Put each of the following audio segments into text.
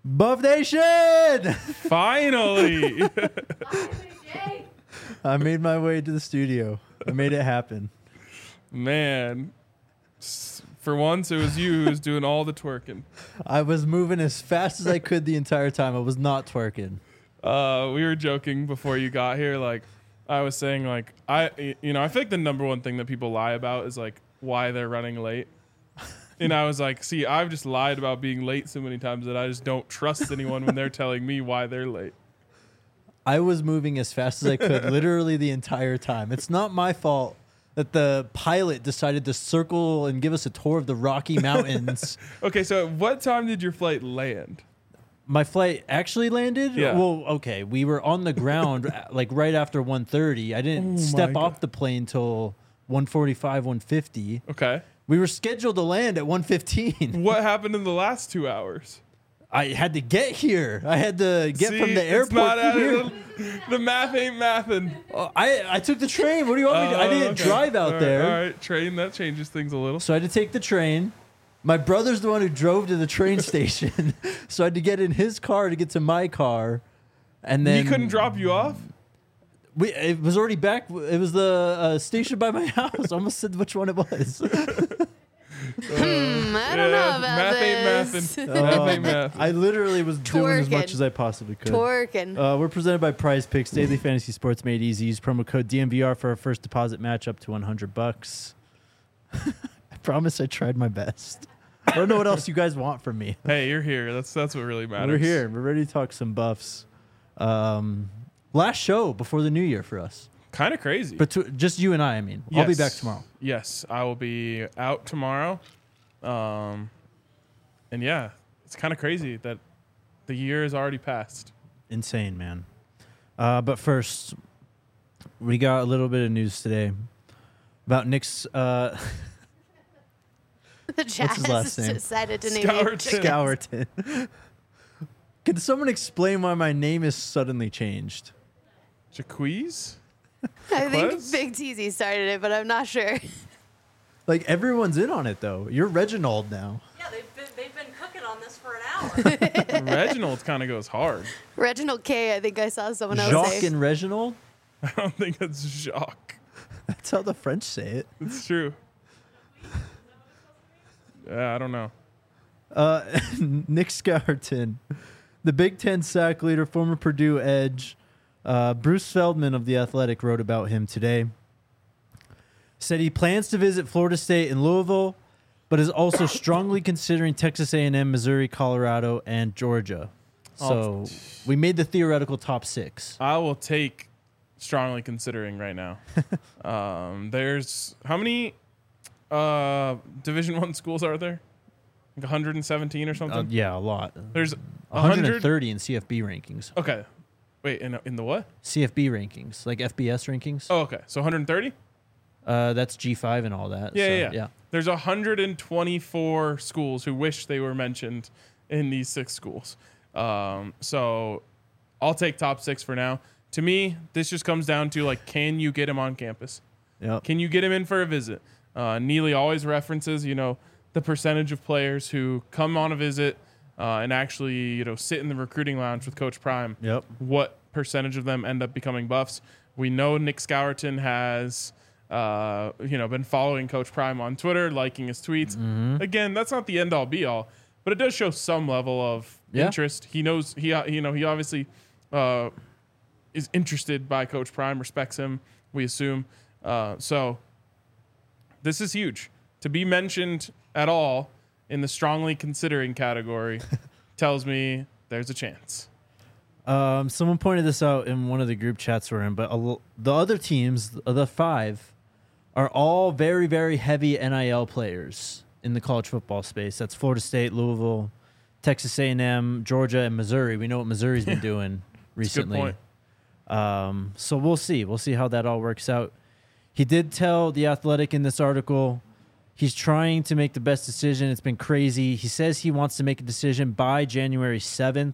Buff Nation! Finally. I made my way to the studio. I made it happen. Man. For once, it was you who was doing all the twerking. I was moving as fast as I could the entire time. I was not twerking. We were joking before you got here. Like, I was saying, like, I feel like the number one thing that people lie about is, like, why they're running late. And I was like, see, I've just lied about being late so many times that I just don't trust anyone when they're telling me why they're late. I was moving as fast as I could literally the entire time. It's not my fault that the pilot decided to circle and give us a tour of the Rocky Mountains. Okay, so what time did your flight land? My flight actually landed? Yeah. Well, okay. We were on the ground like right after 1:30. I didn't step off the plane till 1:45, 1:50. Okay. We were scheduled to land at 1:15. What happened in the last 2 hours? I had to get here. I had to get See, from the it's airport not to here. the math ain't mathin'. I took the train. What do you want me to do? I didn't drive out there. All right, train, that changes things a little. So I had to take the train. My brother's the one who drove to the train station. So I had to get in his car to get to my car. And then He couldn't drop you off? it was already back. It was the station by my house. I almost said which one it was. I don't know about math this. ain't mathin'. Math ain't math. I literally was doing as Twerking. much as I possibly could. Twerking. We're presented by Prize Picks, daily fantasy sports made easy. Use promo code DMVR for our first deposit match up to $100. I promise I tried my best. I don't know what else you guys want from me. Hey, you're here. That's what really matters. We're here. We're ready to talk some buffs. Last show before the new year for us. Kind of crazy. But just you and I mean. I'll be Yes. back tomorrow. Yes, I will be out tomorrow. And yeah, it's kind of crazy that the year has already passed. Insane, man. But first, we got a little bit of news today about Nick's The Jazz his last name? decided to name Scourton. Scourton. Can someone explain why my name is suddenly changed? Jaquez? I think Jaquez? Big Teasy started it, but I'm not sure. Like, everyone's in on it, though. You're Reginald now. Yeah, they've been cooking on this for an hour. Reginald kind of goes hard. Reginald K, I think I saw someone else Jacques say. and Reginald? I don't think it's Jacques. That's how the French say it. It's true. Yeah, I don't know. Nick Scourton, the Big Ten sack leader, former Purdue edge. Bruce Feldman of The Athletic wrote about him today. Said he plans to visit Florida State and Louisville, but is also strongly considering Texas A&M, Missouri, Colorado, and Georgia. So we made the theoretical top 6. I will take strongly considering right now. There's how many Division I schools are there? Like 117 or something? Yeah, a lot. There's 100. 130 in CFB rankings. Okay. Wait, in the what? CFB rankings, like FBS rankings. Oh, okay. So 130? That's G5 and all that. Yeah, so, yeah. There's 124 schools who wish they were mentioned in these 6 schools. So I'll take top 6 for now. To me, this just comes down to, like, can you get him on campus? Yep. Can you get him in for a visit? Neely always references, the percentage of players who come on a visit and actually, sit in the recruiting lounge with Coach Prime. Yep. What percentage of them end up becoming buffs? We know Nick Scourton has, been following Coach Prime on Twitter, liking his tweets. Mm-hmm. Again, that's not the end all be all, but it does show some level of interest. He knows he obviously is interested by Coach Prime, respects him. We assume. So this is huge to be mentioned at all in the strongly considering category. Tells me there's a chance. Someone pointed this out in one of the group chats we're in, but the other teams, the 5, are all very, very heavy NIL players in the college football space. That's Florida State, Louisville, Texas A&M, Georgia, and Missouri. We know what Missouri's been doing recently. Good point. So we'll see. We'll see how that all works out. He did tell The Athletic in this article he's trying to make the best decision. It's been crazy. He says he wants to make a decision by January 7th.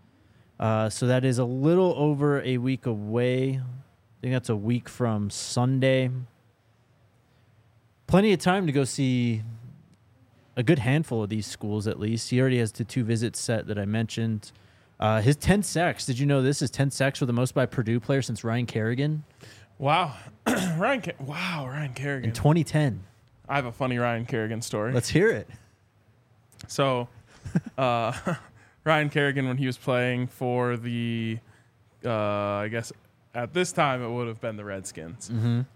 So that is a little over a week away. I think that's a week from Sunday. Plenty of time to go see a good handful of these schools at least. He already has the 2 visits set that I mentioned. His 10 sacks. Did you know this? His 10 sacks were the most by Purdue player since Ryan Kerrigan Wow. Ryan Kerrigan. in 2010. I have a funny Ryan Kerrigan story. Let's hear it. So, Ryan Kerrigan, when he was playing for the, I guess at this time it would have been the Redskins.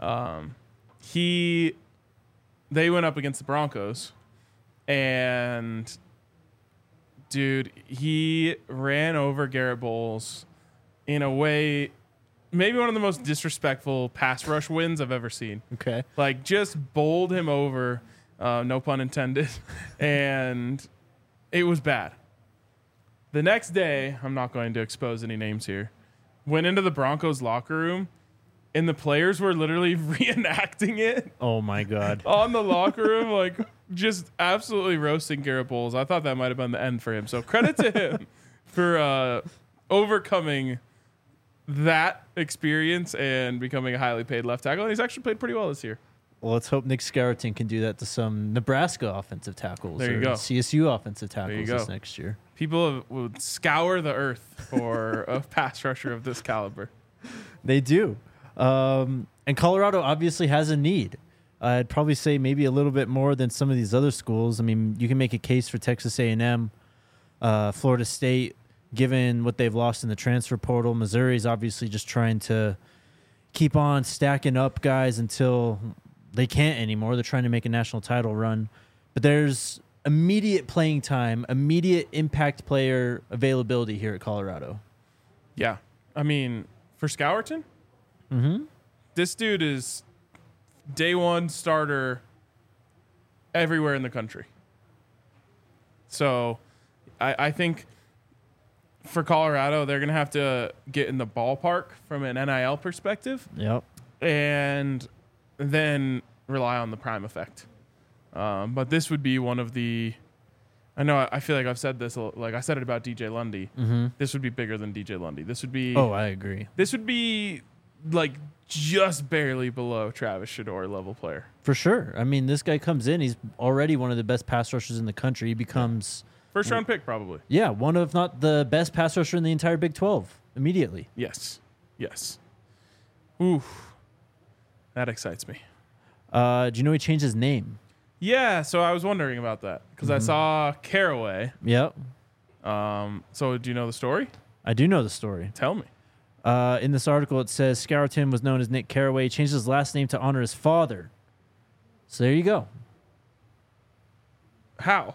They went up against the Broncos, and dude, he ran over Garrett Bowles in a way, maybe one of the most disrespectful pass rush wins I've ever seen. Okay. Like, just bowled him over, no pun intended, and it was bad. The next day, I'm not going to expose any names here, went into the Broncos locker room, and the players were literally reenacting it Oh my God. on the locker room, like just absolutely roasting Garrett Bowles. I thought that might have been the end for him. So credit to him for overcoming that experience and becoming a highly paid left tackle. And he's actually played pretty well this year. Well, let's hope Nick Scarleton can do that to some Nebraska offensive tackles There you or go. CSU offensive tackles go. this next year. People would scour the earth for a pass rusher of this caliber. They do. And Colorado obviously has a need. I'd probably say maybe a little bit more than some of these other schools. I mean, you can make a case for Texas A&M, Florida State, given what they've lost in the transfer portal. Missouri's obviously just trying to keep on stacking up guys until they can't anymore. They're trying to make a national title run. But there's immediate playing time, immediate impact player availability here at Colorado. Yeah. I mean, for Scourton, this dude is day one starter everywhere in the country. So I think for Colorado, they're going to have to get in the ballpark from an NIL perspective Yep. and then rely on the prime effect. But this would be one of the... I feel like I've said this, like I said it about DJ Lundy. This would be bigger than DJ Lundy. This would be... Oh, I agree. This would be like just barely below Travis Shador level player. For sure. I mean, this guy comes in. He's already one of the best pass rushers in the country. He becomes, First round pick, probably. one of, if not the best pass rusher in the entire Big 12 immediately. Yes. Ooh. That excites me. Do you know he changed his name? Yeah, so I was wondering about that because I saw Caraway. Yep. So do you know the story? I do know the story. Tell me. In this article, it says Scourton was known as Nick Caraway. He changed his last name to honor his father. So there you go. How?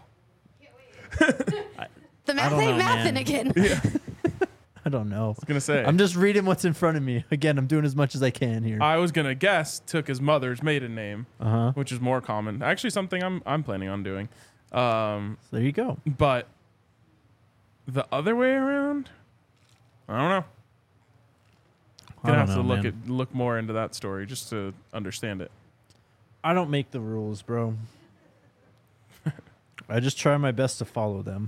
The math don't ain't know, mathing man. again. I don't know. I was going to say. I'm just reading what's in front of me. Again, I'm doing as much as I can here. I was going to guess took his mother's maiden name, Uh-huh. which is more common. Actually, something I'm planning on doing. So there you go. But the other way around, I don't know. Gonna have to look more into that story just to understand it. I don't make the rules, bro. I just try my best to follow them.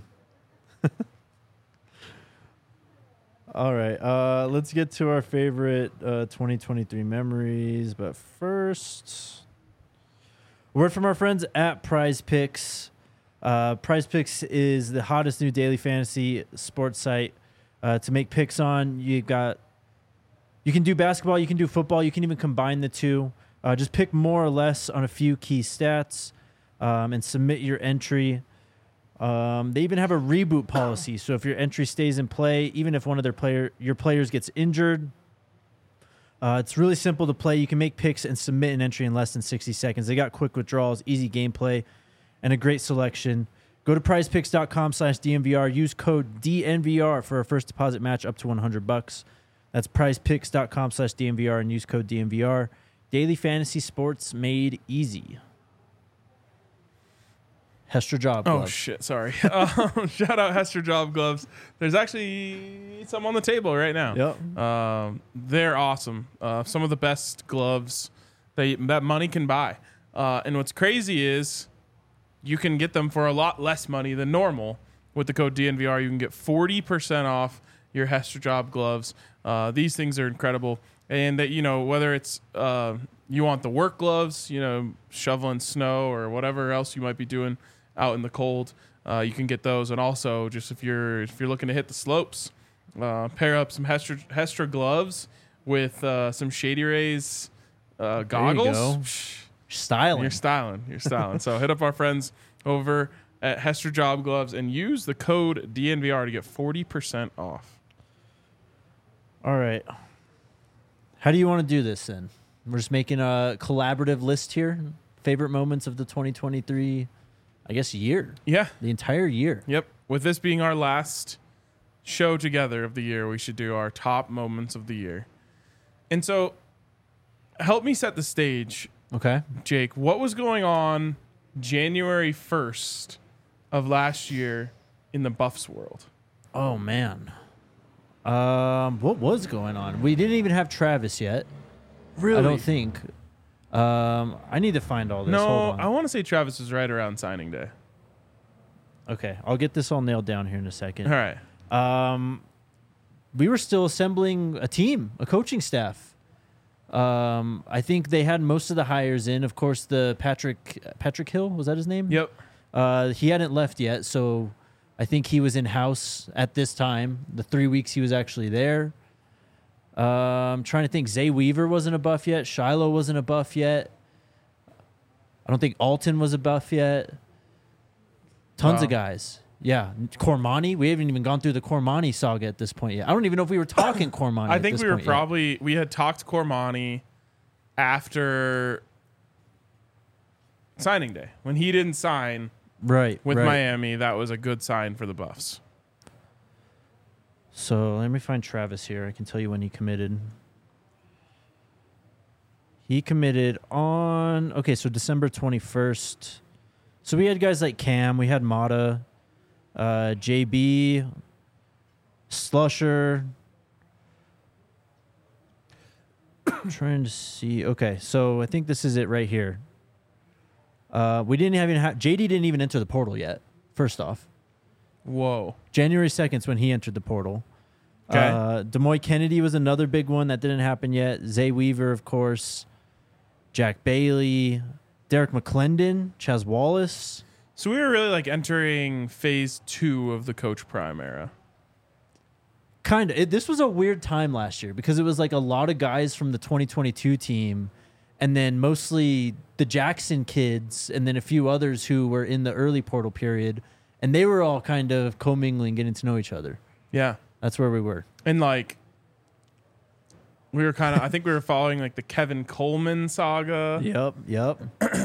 All right, let's get to our favorite 2023 memories. But first, a word from our friends at Prize Picks. Prize Picks is the hottest new daily fantasy sports site to make picks on. You can do basketball, you can do football, you can even combine the two. Just pick more or less on a few key stats and submit your entry. They even have a reboot policy, so if your entry stays in play, even if one of your players gets injured, it's really simple to play. You can make picks and submit an entry in less than 60 seconds. They got quick withdrawals, easy gameplay, and a great selection. Go to prizepicks.com/DNVR. Use code DNVR for a first deposit match up to $100. That's prizepicks.com/DNVR and use code DNVR. Daily fantasy sports made easy. Hester Job Gloves. Oh, shit. Sorry. Shout out Hester Job Gloves. There's actually some on the table right now. Yep. They're awesome. Some of the best gloves that money can buy. And what's crazy is you can get them for a lot less money than normal. With the code DNVR, you can get 40% off your Hester Job Gloves. These things are incredible. And that, whether it's you want the work gloves, shoveling snow or whatever else you might be doing out in the cold, you can get those. And also, just if you're looking to hit the slopes, pair up some Hestra gloves with some Shady Rays goggles. go. Styling. You're styling. So hit up our friends over at Hestra Job Gloves and use the code DNVR to get 40% off. All right. How do you want to do this then? We're just making a collaborative list here. Favorite moments of the 2023, I guess, year. Yeah. The entire year. Yep. With this being our last show together of the year, we should do our top moments of the year. And so, help me set the stage, Okay. Jake. What was going on January 1st of last year in the Buffs world? Oh, man. What was going on? We didn't even have Travis yet. Really? I don't think. I need to find all this. No, Hold on. I want to say Travis was right around signing day. Okay, I'll get this all nailed down here in a second. All right. We were still assembling a team, a coaching staff. I think they had most of the hires in. Of course, the Patrick Hill, was that his name? Yep. He hadn't left yet, so I think he was in house at this time. The 3 weeks he was actually there. I'm trying to think. Zay Weaver wasn't a buff yet. Shiloh wasn't a buff yet. I don't think Alton was a buff yet. Tons of guys. Yeah. Cormani. We haven't even gone through the Cormani saga at this point yet. I don't even know if we were talking Cormani. I think we had talked Cormani after signing day. When he didn't sign right with right. Miami, that was a good sign for the Buffs. So let me find Travis here. I can tell you when he committed. He committed on, so December 21st. So we had guys like Cam. We had Mata, JB, Slusher. I'm trying to see. Okay, so I think this is it right here. We didn't even have JD didn't even enter the portal yet. First off, Whoa. January 2nd is when he entered the portal. Okay. Demoy Kennedy was another big one that didn't happen yet. Zay Weaver, of course. Jack Bailey, Derek McClendon, Chaz Wallace. So we were really like entering phase 2 of the Coach Prime era. Kind of. This was a weird time last year because it was like a lot of guys from the 2022 team and then mostly the Jackson kids and then a few others who were in the early portal period. And they were all kind of commingling, getting to know each other. Yeah. That's where we were. And like, we were kind of, I think we were following like the Kevin Coleman saga. Yep.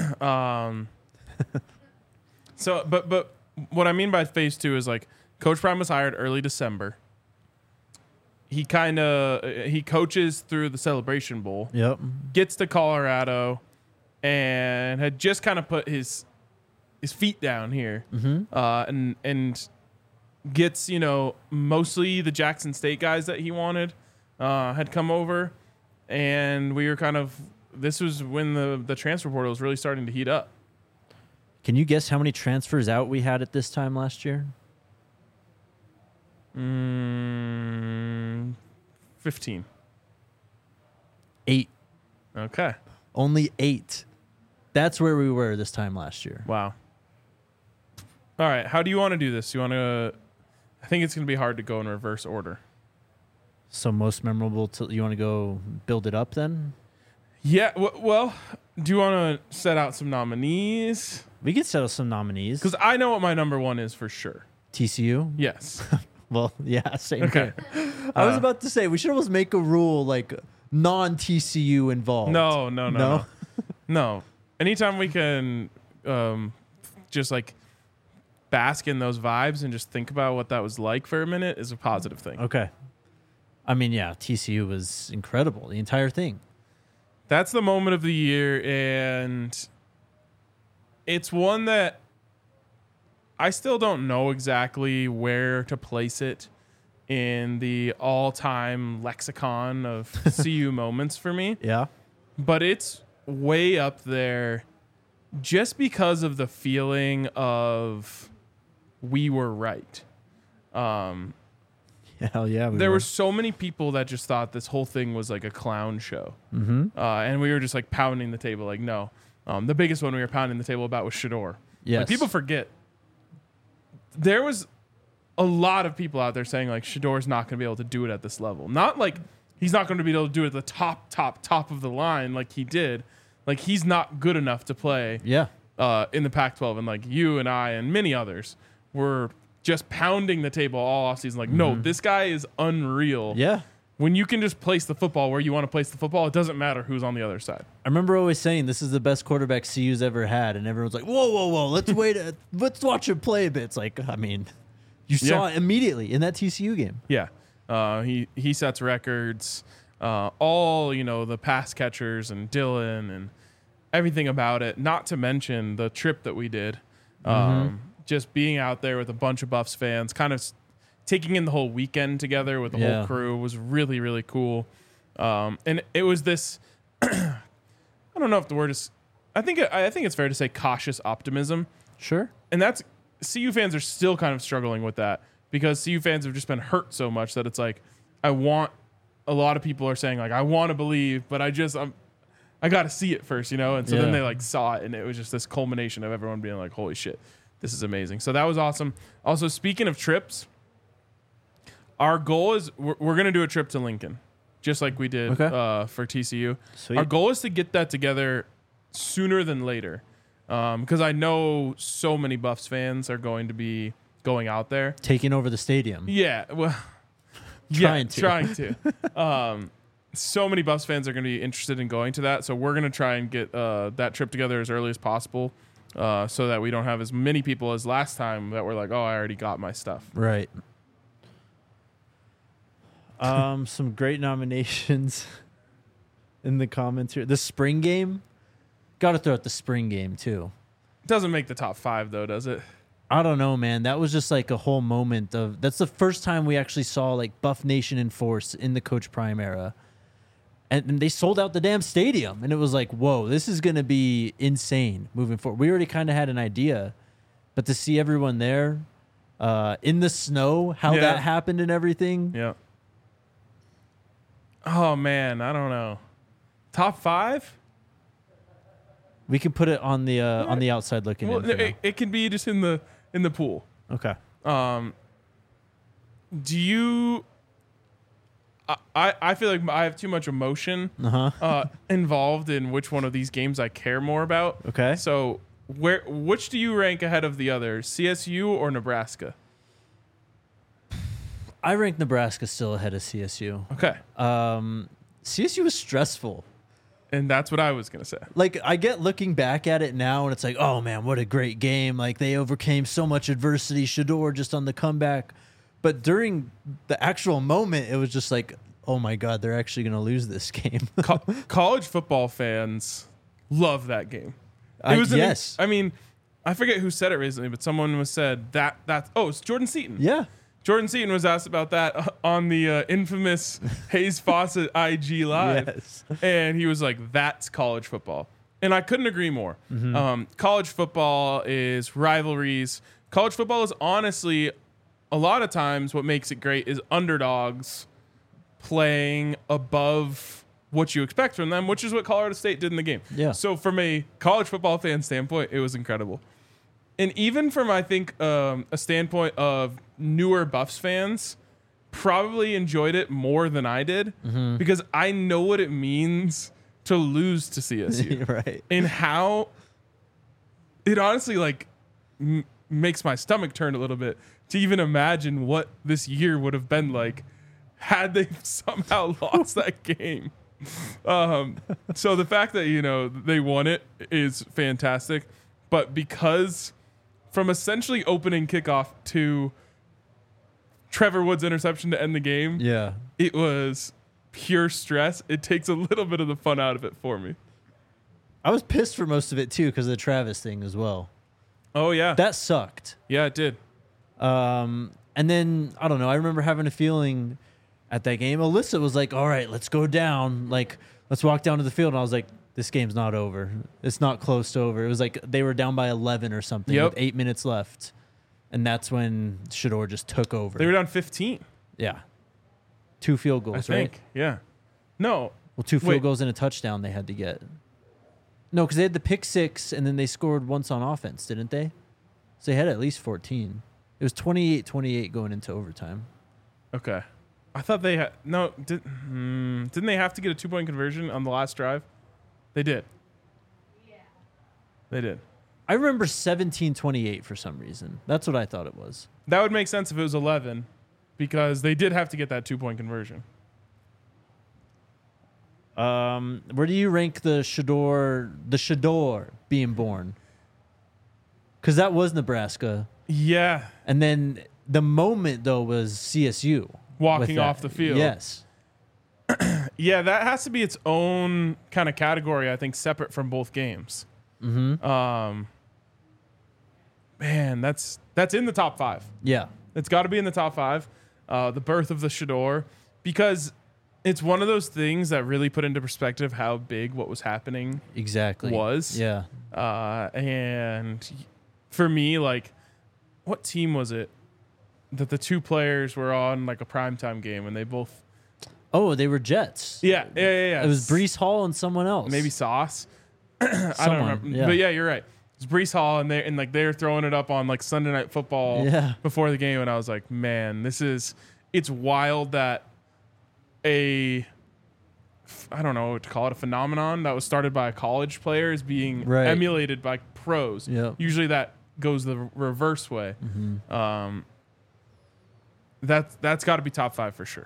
So, but what I mean by phase 2 is like Coach Prime was hired early December. He coaches through the Celebration Bowl. Yep. Gets to Colorado and had just kind of put his feet down here. Mm-hmm. And gets, mostly the Jackson State guys that he wanted had come over. And we were this was when the transfer portal was really starting to heat up. Can you guess how many transfers out we had at this time last year? 15. 8. Okay. Only 8. That's where we were this time last year. Wow. All right. How do you want to do this? I think it's going to be hard to go in reverse order. So most memorable, you want to go build it up then? Yeah. Well, do you want to set out some nominees? We could settle some nominees. Because I know what my number 1 is for sure. TCU? Yes. Well, yeah, same Okay. here. I was about to say, we should almost make a rule like non-TCU involved. No. No. Anytime we can just like bask in those vibes and just think about what that was like for a minute is a positive thing. Okay. I mean, yeah, TCU was incredible, the entire thing. That's the moment of the year, and it's one that I still don't know exactly where to place it in the all-time lexicon of CU moments for me. Yeah. But it's way up there just because of the feeling of we were right. Hell yeah. There were so many people that just thought this whole thing was like a clown show. Mm-hmm. And we were just like pounding the table like, no. The biggest one we were pounding the table about was Shador. Yes. Like, people forget there was a lot of people out there saying like Shedor's not going to be able to do it at this level. Not like he's not going to be able to do it at the top of the line like he did. Like he's not good enough to play in the Pac-12. And like you and I and many others were just pounding the table all offseason. Like, no, this guy is unreal. Yeah. When you can just place the football where you want to place the football, it doesn't matter who's on the other side. I remember always saying this is the best quarterback CU's ever had, and everyone's like, whoa, let's wait, let's watch him play a bit. It's like, I mean, you saw it immediately in that TCU game. Yeah, he sets records. All the pass catchers and Dylan and everything about it. Not to mention the trip that we did. Just being out there with a bunch of Buffs fans, kind of taking in the whole weekend together with the whole crew was really, really cool. And it was this, I don't know if the word is, I think it's fair to say cautious optimism. Sure. And that's, CU fans are still kind of struggling with that because CU fans have just been hurt so much that it's like, a lot of people are saying like, I want to believe, but I got to see it first, And so then they like saw it and it was just this culmination of everyone being like, holy shit, this is amazing. So that was awesome. Also, speaking of trips, our goal is we're going to do a trip to Lincoln, just like we did for TCU. Sweet. Our goal is to get that together sooner than later because I know so many Buffs fans are going to be going out there. Taking over the stadium. Yeah, well, trying to. So many Buffs fans are going to be interested in going to that, so we're going to try and get that trip together as early as possible so that we don't have as many people as last time that were like, oh, I already got my stuff. Right. Some great nominations in the comments here. The spring game. Got to throw out the spring game, too. Doesn't make the top 5, though, does it? I don't know, man. That was just like a whole moment of... That's the first time we actually saw like Buff Nation in force in the Coach Prime era. And they sold out the damn stadium. And it was like, whoa, this is going to be insane moving forward. We already kind of had an idea. But to see everyone there in the snow, how that happened and everything... Yeah. Oh, man, I don't know. Top 5? We can put it on the outside looking in. It can be just in the pool. Okay. Do you... I feel like I have too much emotion involved in which one of these games I care more about. Okay. So which do you rank ahead of the other, CSU or Nebraska? I rank Nebraska still ahead of CSU. Okay. CSU was stressful. And that's what I was going to say. Like, I get looking back at it now, and it's like, oh, man, what a great game. Like, they overcame so much adversity. Shedeur just on the comeback. But during the actual moment, it was just like, oh, my God, they're actually going to lose this game. College football fans love that game. Yes. I mean, I forget who said it recently, but someone said it's Jordan Seaton. Yeah. Jordan Seaton was asked about that on the infamous Hayes Fawcett IG Live. Yes. And he was like, that's college football. And I couldn't agree more. College football is rivalries. College football is honestly, a lot of times what makes it great is underdogs playing above what you expect from them, which is what Colorado State did in the game. Yeah. So from a college football fan standpoint, it was incredible. And even from, I think, a standpoint of newer Buffs fans, probably enjoyed it more than I did because I know what it means to lose to CSU. Right. And how it honestly, like, makes my stomach turn a little bit to even imagine what this year would have been like had they somehow lost that game. So the fact that, they won it is fantastic. But because... from essentially opening kickoff to Trevor Woods' interception to end the game, it was pure stress. It takes a little bit of the fun out of it for me. I was pissed for most of it, too, because of the Travis thing as well. Oh, yeah. That sucked. Yeah, it did. And then, I don't know, I remember having a feeling at that game. Alyssa was like, all right, let's go down. Like, let's walk down to the field. And I was like, this game's not over. It's not close to over. It was like they were down by 11 or something with 8 minutes left. And that's when Shedeur just took over. They were down 15. Yeah. 2 field goals, I think. right? Yeah. No. Well, 2 field goals and a touchdown they had to get. No, because they had the pick 6, and then they scored once on offense, didn't they? So they had at least 14. It was 28-28 going into overtime. Okay. I thought they had no. Didn't they have to get a 2-point conversion on the last drive? They did. Yeah. They did. I remember 17-28 for some reason. That's what I thought it was. That would make sense if it was 11, because they did have to get that 2-point conversion. Where do you rank the Shador being born? Because that was Nebraska. Yeah. And then the moment, though, was CSU. Walking off the field. Yes. Yeah, that has to be its own kind of category, I think, separate from both games. Mm-hmm. Man, that's in the top 5. Yeah. It's got to be in the top 5. The birth of the Shador, because it's one of those things that really put into perspective how big what was happening Exactly. was. Yeah. And for me, like, what team was it that the two players were on like a primetime game and they both? Oh, they were Jets. Yeah. It was Breece Hall and someone else. Maybe Sauce. I don't remember. Yeah. But yeah, you're right. It's Breece Hall, and they're throwing it up on like Sunday Night Football before the game, and I was like, man, it's wild that I don't know what to call it, a phenomenon that was started by a college player is being emulated by pros. Yep. Usually that goes the reverse way. Mm-hmm. That's got to be top 5 for sure.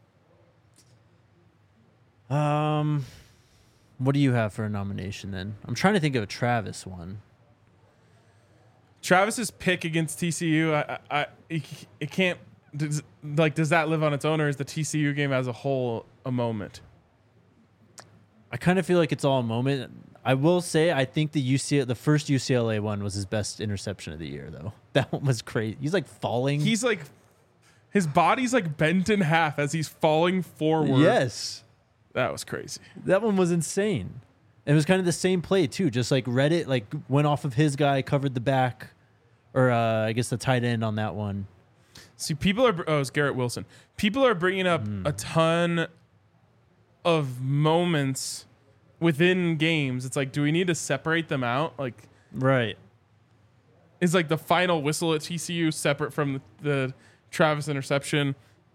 What do you have for a nomination then? I'm trying to think of a Travis one. Travis's pick against TCU, it can't. Does that live on its own, or is the TCU game as a whole a moment? I kind of feel like it's all a moment. I will say I think the first UCLA one was his best interception of the year, though. That one was crazy. He's like falling. He's like, his body's like bent in half as he's falling forward. Yes. That was crazy. That one was insane. And it was kind of the same play, too. Just like Reddit, like went off of his guy, covered the back, or I guess the tight end on that one. See, it's Garrett Wilson. People are bringing up a ton of moments within games. It's like, do we need to separate them out? Like, right. Is like the final whistle at TCU separate from the Travis interception?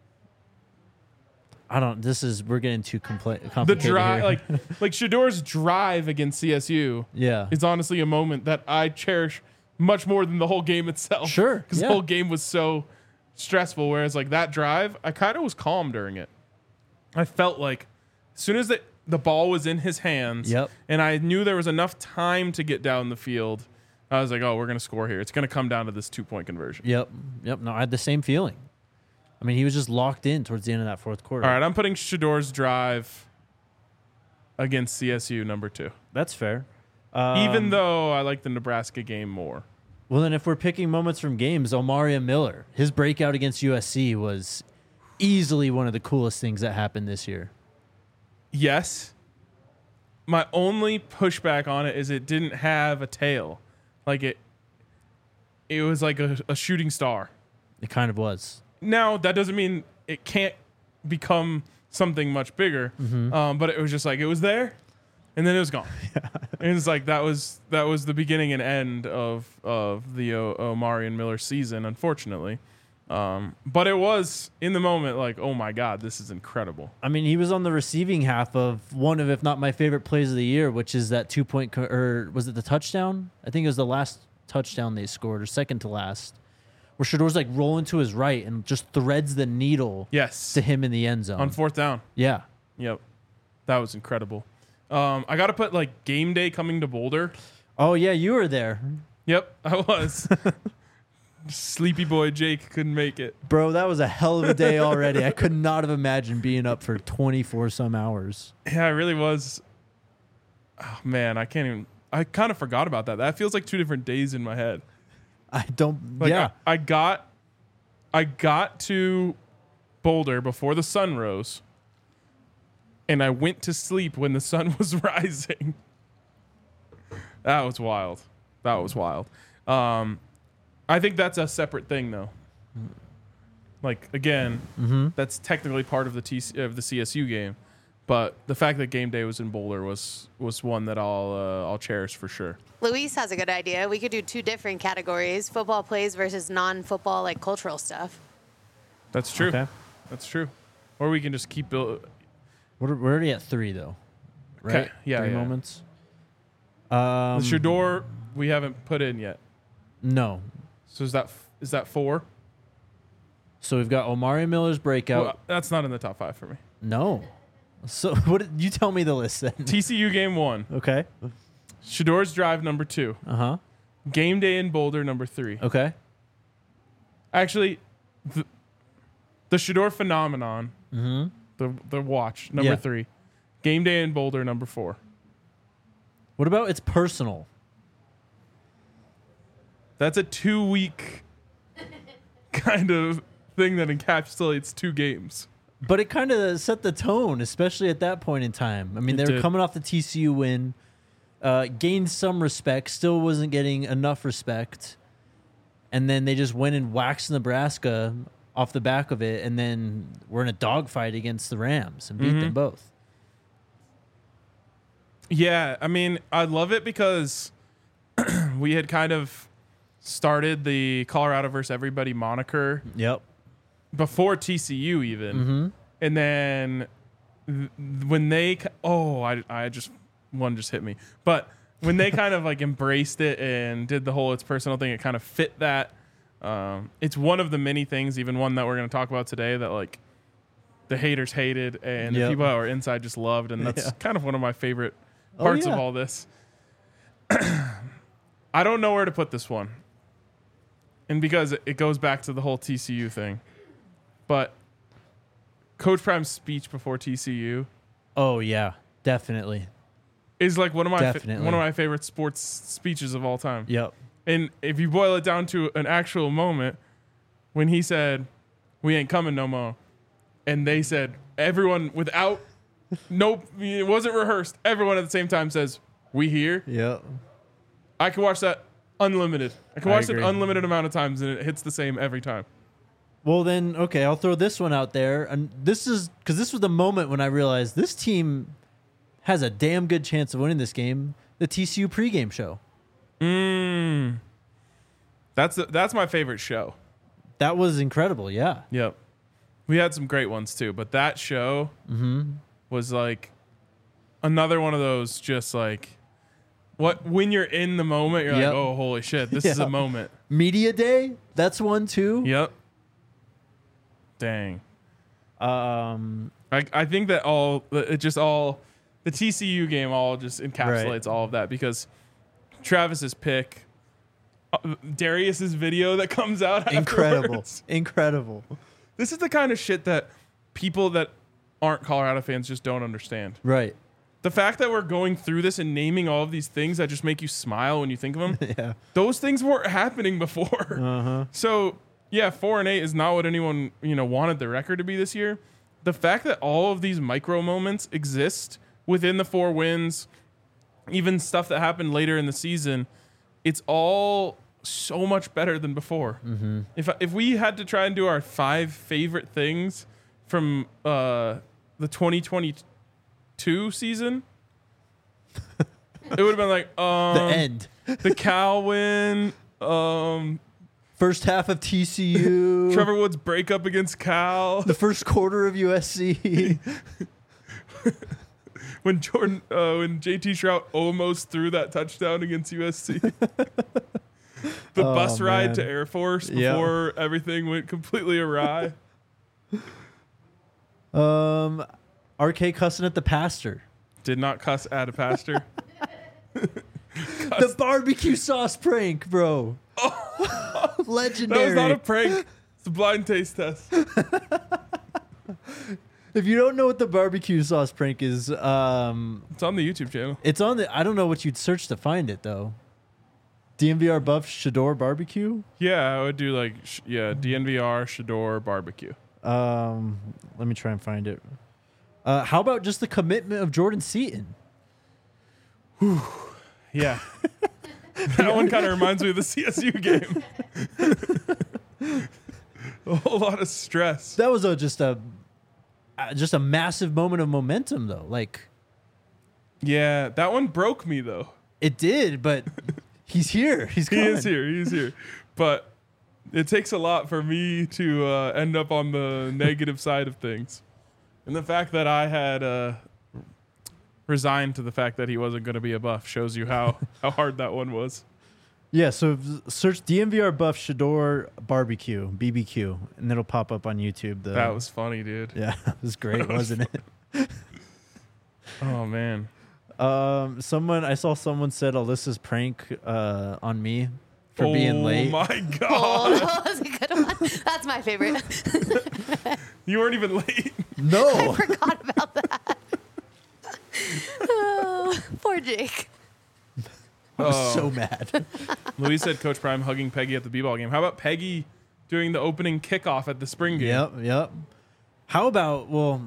We're getting too complicated. The drive, here. like Shador's drive against CSU, is honestly a moment that I cherish much more than the whole game itself. Sure, because the whole game was so stressful. Whereas like that drive, I kind of was calm during it. I felt like as soon as the ball was in his hands, and I knew there was enough time to get down the field, I was like, oh, we're gonna score here. It's gonna come down to this 2-point conversion. Yep. No, I had the same feeling. I mean, he was just locked in towards the end of that fourth quarter. All right, I'm putting Shador's drive against CSU number 2. That's fair. Even though I like the Nebraska game more. Well, then if we're picking moments from games, Omaria Miller, his breakout against USC was easily one of the coolest things that happened this year. Yes. My only pushback on it is it didn't have a tail. Like it was like a shooting star. It kind of was. Now, that doesn't mean it can't become something much bigger. Mm-hmm. But it was just like, it was there, and then it was gone. And it's like, that was the beginning and end of the Omarion Miller season, unfortunately. But it was, in the moment, like, oh my God, this is incredible. I mean, he was on the receiving half of one of, if not my favorite plays of the year, which is that 2-point, or was it the touchdown? I think it was the last touchdown they scored, or second to last. Where Shador's like rolling to his right and just threads the needle to him in the end zone. On 4th down. Yeah. Yep. That was incredible. I got to put like game day coming to Boulder. Oh, yeah, you were there. Yep, I was. Sleepy boy Jake couldn't make it. Bro, that was a hell of a day already. I could not have imagined being up for 24 some hours. Yeah, it really was. Oh, man, I kind of forgot about that. That feels like 2 different days in my head. I don't. Like, yeah. I got to Boulder before the sun rose, and I went to sleep when the sun was rising. That was wild. I think that's a separate thing, though. Like, again, that's technically part of the CSU game, But the fact that game day was in Boulder was one that I'll cherish for sure. Luis has a good idea. We could do 2 different categories: football plays versus non-football, like cultural stuff. That's true. Okay. That's true. Or we can just keep building. We're already at 3 though, right? Okay. Yeah, 3 yeah. moments. The Shador we haven't put in yet. No. So is that 4? So we've got Omari Miller's breakout. Well, that's not in the top 5 for me. No. So you tell me the list then? TCU game 1. Okay. Shador's drive number 2. Uh-huh. Game day in Boulder number 3. Okay. Actually, the Shador phenomenon. The watch number 3. Game day in Boulder number 4. What about it's personal? That's a 2-week kind of thing that encapsulates 2 games. But it kind of set the tone, especially at that point in time. I mean, they were coming off the TCU win, gained some respect, still wasn't getting enough respect. And then they just went and waxed Nebraska off the back of it, and then we're in a dogfight against the Rams and beat them both. Yeah, I mean, I love it because we had kind of started the Colorado versus everybody moniker Yep. before TCU even. And then when they I just one just hit me. But when they kind of like embraced it and did the whole it's personal thing, it kind of fit that. It's one of the many things, even one that we're going to talk about today, that like the haters hated and the people that were inside just loved, and that's kind of one of my favorite parts of all this. I don't know where to put this one. And because it goes back to the whole TCU thing. But Coach Prime's speech before TCU Oh, yeah. Definitely. is like one of Definitely. my favorite sports speeches of all time. Yep. And if you boil it down to an actual moment, when he said, "We ain't coming no more," and they said, everyone without, nope, it wasn't rehearsed. Everyone at the same time says, "We here." Yep. I can watch that unlimited. I can watch it agree. unlimited amount of times, and it hits the same every time. Well, then, okay, I'll throw this one out there. And this is because this was the moment when I realized this team has a damn good chance of winning this game. The TCU pregame show. That's my favorite show. That was incredible. Yeah. Yep. We had some great ones too, but that show was like another one of those just like when you're in the moment, you're Yep. like, oh, holy shit, this is a Yeah. moment. Media Day. That's one too. Yep. Dang. Um. I think that the TCU game all just encapsulates all of that, because Travis's pick, Darius's video that comes out Incredible. afterwards. Incredible. This is the kind of shit that people that aren't Colorado fans just don't understand. Right. The fact that we're going through this and naming all of these things that just make you smile when you think of them, Yeah. those things weren't happening before. Uh-huh. So, yeah, 4-8 is not what anyone, wanted the record to be this year. The fact that all of these micro moments exist within the 4 wins, even stuff that happened later in the season, it's all so much better than before. Mm-hmm. If we had to try and do our 5 favorite things from the 2022 season, it would have been like The end. the Cal win, First half of TCU. Trevor Woods' breakup against Cal, The first quarter of USC. when JT Shrout almost threw that touchdown against USC. The bus ride man. to Air Force Yeah. before everything went completely awry. RK cussing at the pastor. Did not cuss at a pastor. The barbecue sauce prank, bro. That Legendary. was not a prank. It's a blind taste test. If you don't know what the barbecue sauce prank is, It's on the YouTube channel. it's on the. I don't know what you'd search to find it though. DMVR buff Shador barbecue. Yeah, I would do like DNVR Shador barbecue. Let me try and find it. How about just the commitment of Jordan Seaton? Yeah. That one kind of reminds me of the CSU game. A whole lot of stress. That was just a just a massive moment of momentum, though. Like, Yeah, that one broke me though. it did, but he's here. He's He coming. is here. He's here. But it takes a lot for me to end up on the negative side of things. And the fact that I had resigned to the fact that he wasn't going to be a Buff shows you how hard that one was. Yeah, so search DMVR Buff Shador Barbecue, BBQ, and it'll pop up on YouTube. That was funny, dude. Yeah, it was great, wasn't it? Oh, man. I saw someone said Alyssa's prank on me for being late. Oh, my Oh, God. that was a good one. That's my favorite. You weren't even late. No. Forgot about that. Oh, poor Jake. I was so mad. Louise said Coach Prime hugging Peggy at the B-ball game. How about Peggy doing the opening kickoff at the spring game? Yep. How about,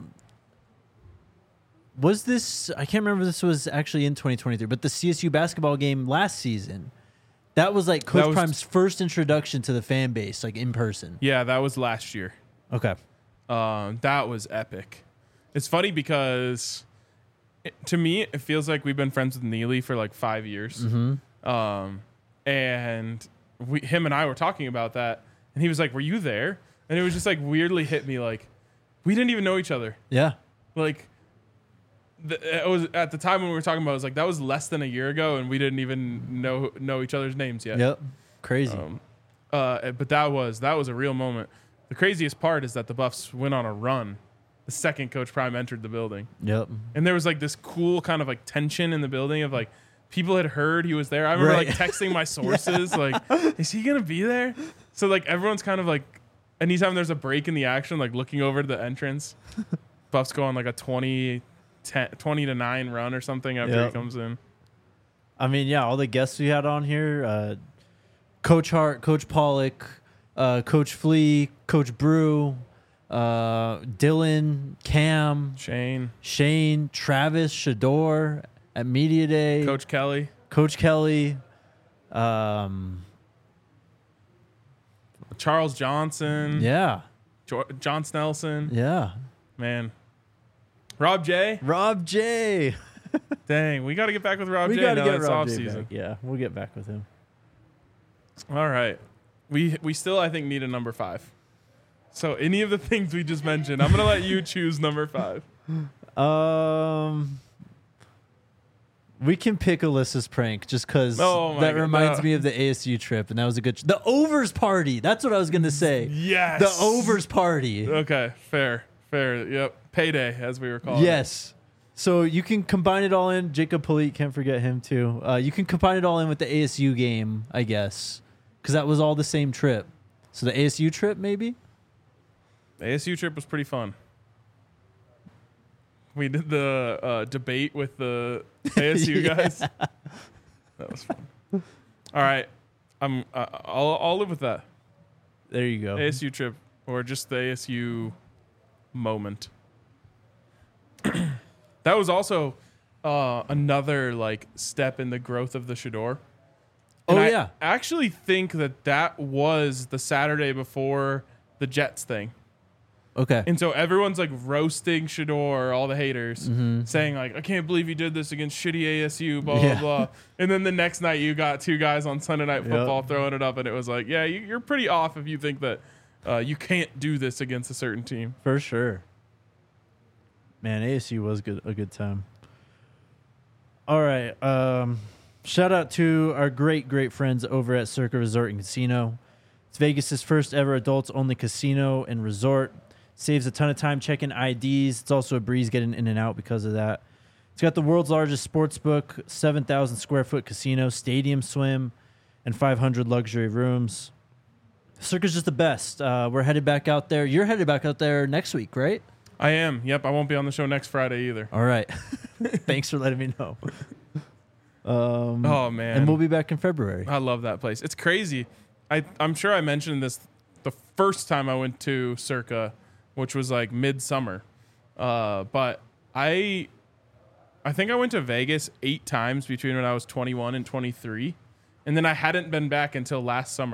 was this, I can't remember if this was actually in 2023, but the CSU basketball game last season, that was like Coach Prime's first introduction to the fan base, like in person. Yeah, that was last year. Okay. That was epic. It's funny because to me, it feels like we've been friends with Neely for like 5 years. Mm-hmm. And him and I were talking about that, and he was like, "Were you there?" And it was just like weirdly hit me, like we didn't even know each other. Yeah. Like it was at the time when we were talking about, it was like that was less than a year ago, and we didn't even know each other's names yet. Yep. Crazy. But that was a real moment. The craziest part is that the Buffs went on a run the second Coach Prime entered the building. Yep. And there was like this cool kind of like tension in the building of like people had heard he was there. I remember Right. like texting my sources like, is he going to be there? So like everyone's kind of like, anytime there's a break in the action, like looking over to the entrance, Buffs go on like a 20 to 9 run or something after Yep. he comes in. I mean, yeah, all the guests we had on here, Coach Hart, Coach Pollock, Coach Flea, Coach Brew, Dylan, Cam, Shane, Travis, Shador at Media Day, Coach Kelly, Charles Johnson, yeah, John Snelson, yeah, man, Rob J. Dang, we got to get back with Rob We J. got to now get that it's Rob off J season. back. Yeah, we'll get back with him. All right. We still, I think, need a number 5. So any of the things we just mentioned, I'm going to let you choose number 5. We can pick Alyssa's prank just because Oh my that God, reminds no. me of the ASU trip, and that was a good. The overs party. That's what I was gonna say. Yes. The overs party. Okay. Fair. Yep. Payday, as we were calling it. Yes. So you can combine it all in. Jacob Polite, can't forget him too. You can combine it all in with the ASU game, I guess, because that was all the same trip. So the ASU trip, maybe. The ASU trip was pretty fun. We did the debate with the ASU guys. That was fun. All right. I'll live with that. There you go. ASU trip or just the ASU moment. That was also another like step in the growth of the Shador. And I yeah. actually think that was the Saturday before the Jets thing. Okay. And so everyone's like roasting Shador, all the haters, saying like, I can't believe you did this against shitty ASU, blah, Yeah. blah, blah. And then the next night you got 2 guys on Sunday Night Football throwing it up, and it was like, yeah, you're pretty off if you think that you can't do this against a certain team. For sure. Man, ASU was a good time. All right. Shout out to our great friends over at Circa Resort and Casino. It's Vegas' first ever adults only casino and resort. Saves a ton of time checking IDs. It's also a breeze getting in and out because of that. It's got the world's largest sports book, 7,000 square foot casino, stadium swim, and 500 luxury rooms. Circa's just the best. We're headed back out there. You're headed back out there next week, right? I am. Yep. I won't be on the show next Friday either. All right. Thanks for letting me know. Oh, man. And we'll be back in February. I love that place. It's crazy. I'm sure I mentioned this the first time I went to Circa, which was like midsummer. But I think I went to Vegas 8 times between when I was 21 and 23. And then I hadn't been back until last summer.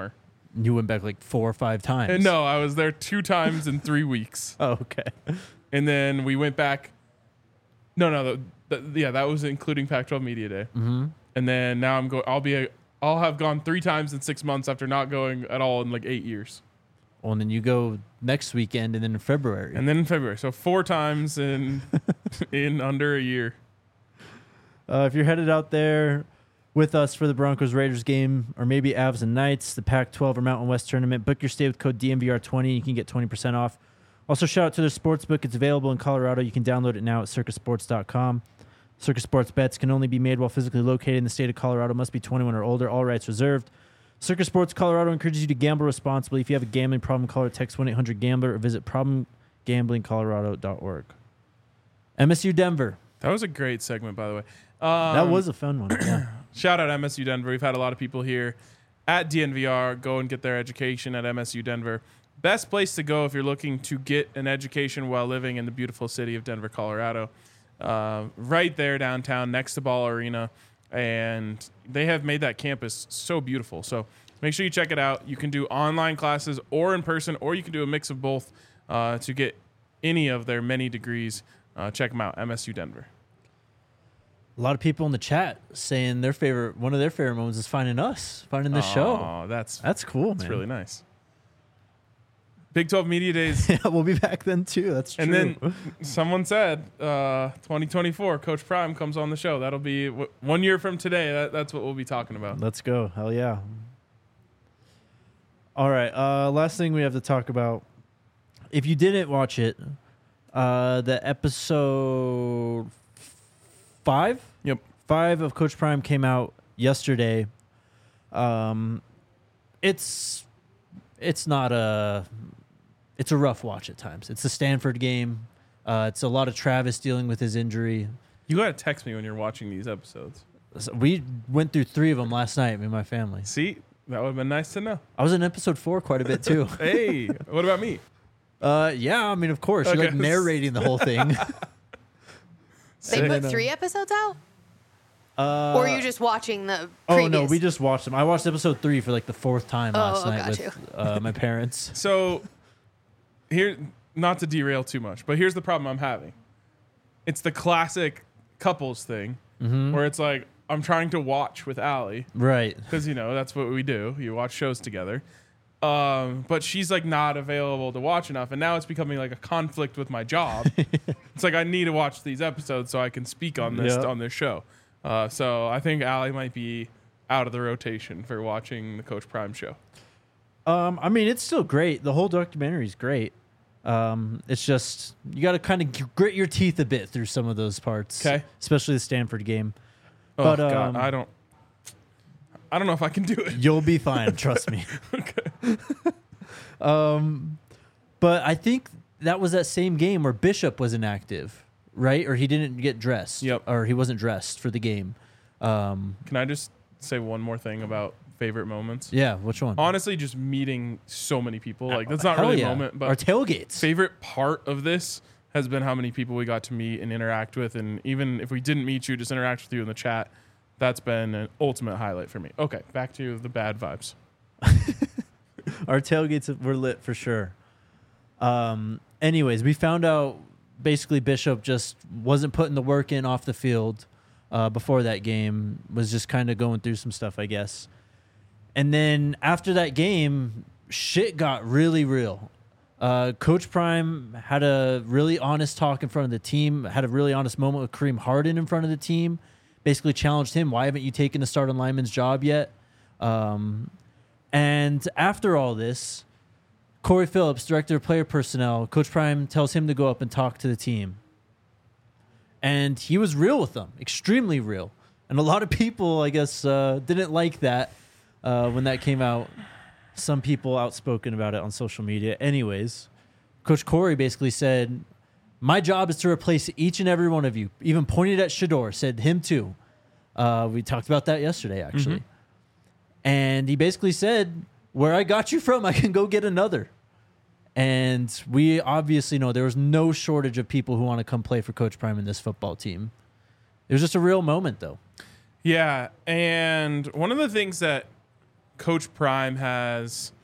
You went back like 4 or 5 times. And no, I was there 2 times in 3 weeks. Oh, okay. And then we went back. No, that was including Pac-12 Media Day. Mm-hmm. And then now I'll have gone 3 times in 6 months after not going at all in like 8 years. Well, and then you go next weekend, and then in February. And then in February, so 4 times in under a year. If you're headed out there with us for the Broncos-Raiders game, or maybe Avs and Knights, the Pac-12 or Mountain West tournament, book your stay with code DNVR20. You can get 20% off. Also, shout out to their sportsbook. It's available in Colorado. You can download it now at circusports.com. Circus Sports bets can only be made while physically located in the state of Colorado. Must be 21 or older. All rights reserved. Circus Sports Colorado encourages you to gamble responsibly. If you have a gambling problem, call or text 1-800-GAMBLER or visit problemgamblingcolorado.org. MSU Denver. That was a great segment, by the way. That was a fun one. Yeah. Shout out MSU Denver. We've had a lot of people here at DNVR go and get their education at MSU Denver. Best place to go if you're looking to get an education while living in the beautiful city of Denver, Colorado. Right there downtown next to Ball Arena. And they have made that campus so beautiful. So make sure you check it out. You can do online classes or in person, or you can do a mix of both to get any of their many degrees. Check them out, MSU Denver. A lot of people in the chat saying one of their favorite moments is finding this show. Oh, that's cool, man. That's really nice. Big 12 Media Days. Yeah, we'll be back then too. That's true. And then someone said 2024, Coach Prime comes on the show. That'll be 1 year from today. That's what we'll be talking about. Let's go. Hell yeah. All right. Last thing we have to talk about. If you didn't watch it, the episode 5? Yep. 5 of Coach Prime came out yesterday. It's a rough watch at times. It's the Stanford game. It's a lot of Travis dealing with his injury. You got to text me when you're watching these episodes. So we went through 3 of them last night, me and my family. See, that would have been nice to know. I was in episode 4 quite a bit too. Hey, what about me? Yeah, I mean, of course. You're like narrating the whole thing. They put 3 episodes out? Or are you just watching the previous? Oh, no, we just watched them. I watched episode 3 for like the 4th time last night with my parents. So, here, not to derail too much, but here's the problem I'm having. It's the classic couples thing where it's like, I'm trying to watch with Allie. Right. Because, that's what we do. You watch shows together. But she's like not available to watch enough. And now it's becoming like a conflict with my job. It's like I need to watch these episodes so I can speak on this on this show. So I think Allie might be out of the rotation for watching the Coach Prime show. I mean, it's still great. The whole documentary is great. It's just you got to kind of grit your teeth a bit through some of those parts. Okay. Especially the Stanford game. Oh, But, God, I don't know if I can do it. You'll be fine, trust me. Okay. But I think that was that same game where Bishop was inactive, right? Or he didn't get dressed. Yep. Or he wasn't dressed for the game. Can I just say one more thing about favorite moments? Yeah, which one? Honestly, just meeting so many people. Like, that's not really a moment, but our tailgates. Favorite part of this has been how many people we got to meet and interact with. And even if we didn't meet you, just interact with you in the chat. That's been an ultimate highlight for me. Okay, back to the bad vibes. Our tailgates were lit for sure. Anyways, we found out basically Bishop just wasn't putting the work in off the field before that game, was just kind of going through some stuff, I guess. And then after that game, shit got really real. Coach Prime had a really honest talk in front of the team, had a really honest moment with Kareem Harden in front of the team, basically challenged him, why haven't you taken the starting lineman's job yet? And after all this, Corey Phillips, director of player personnel, Coach Prime tells him to go up and talk to the team. And he was real with them, extremely real. And a lot of people, I guess, didn't like that when that came out. Some people outspoken about it on social media. Anyways, Coach Corey basically said, my job is to replace each and every one of you. Even pointed at Shedeur, said him too. We talked about that yesterday, actually. Mm-hmm. And he basically said, where I got you from, I can go get another. And we obviously know there was no shortage of people who want to come play for Coach Prime in this football team. It was just a real moment, though. Yeah, and one of the things that Coach Prime has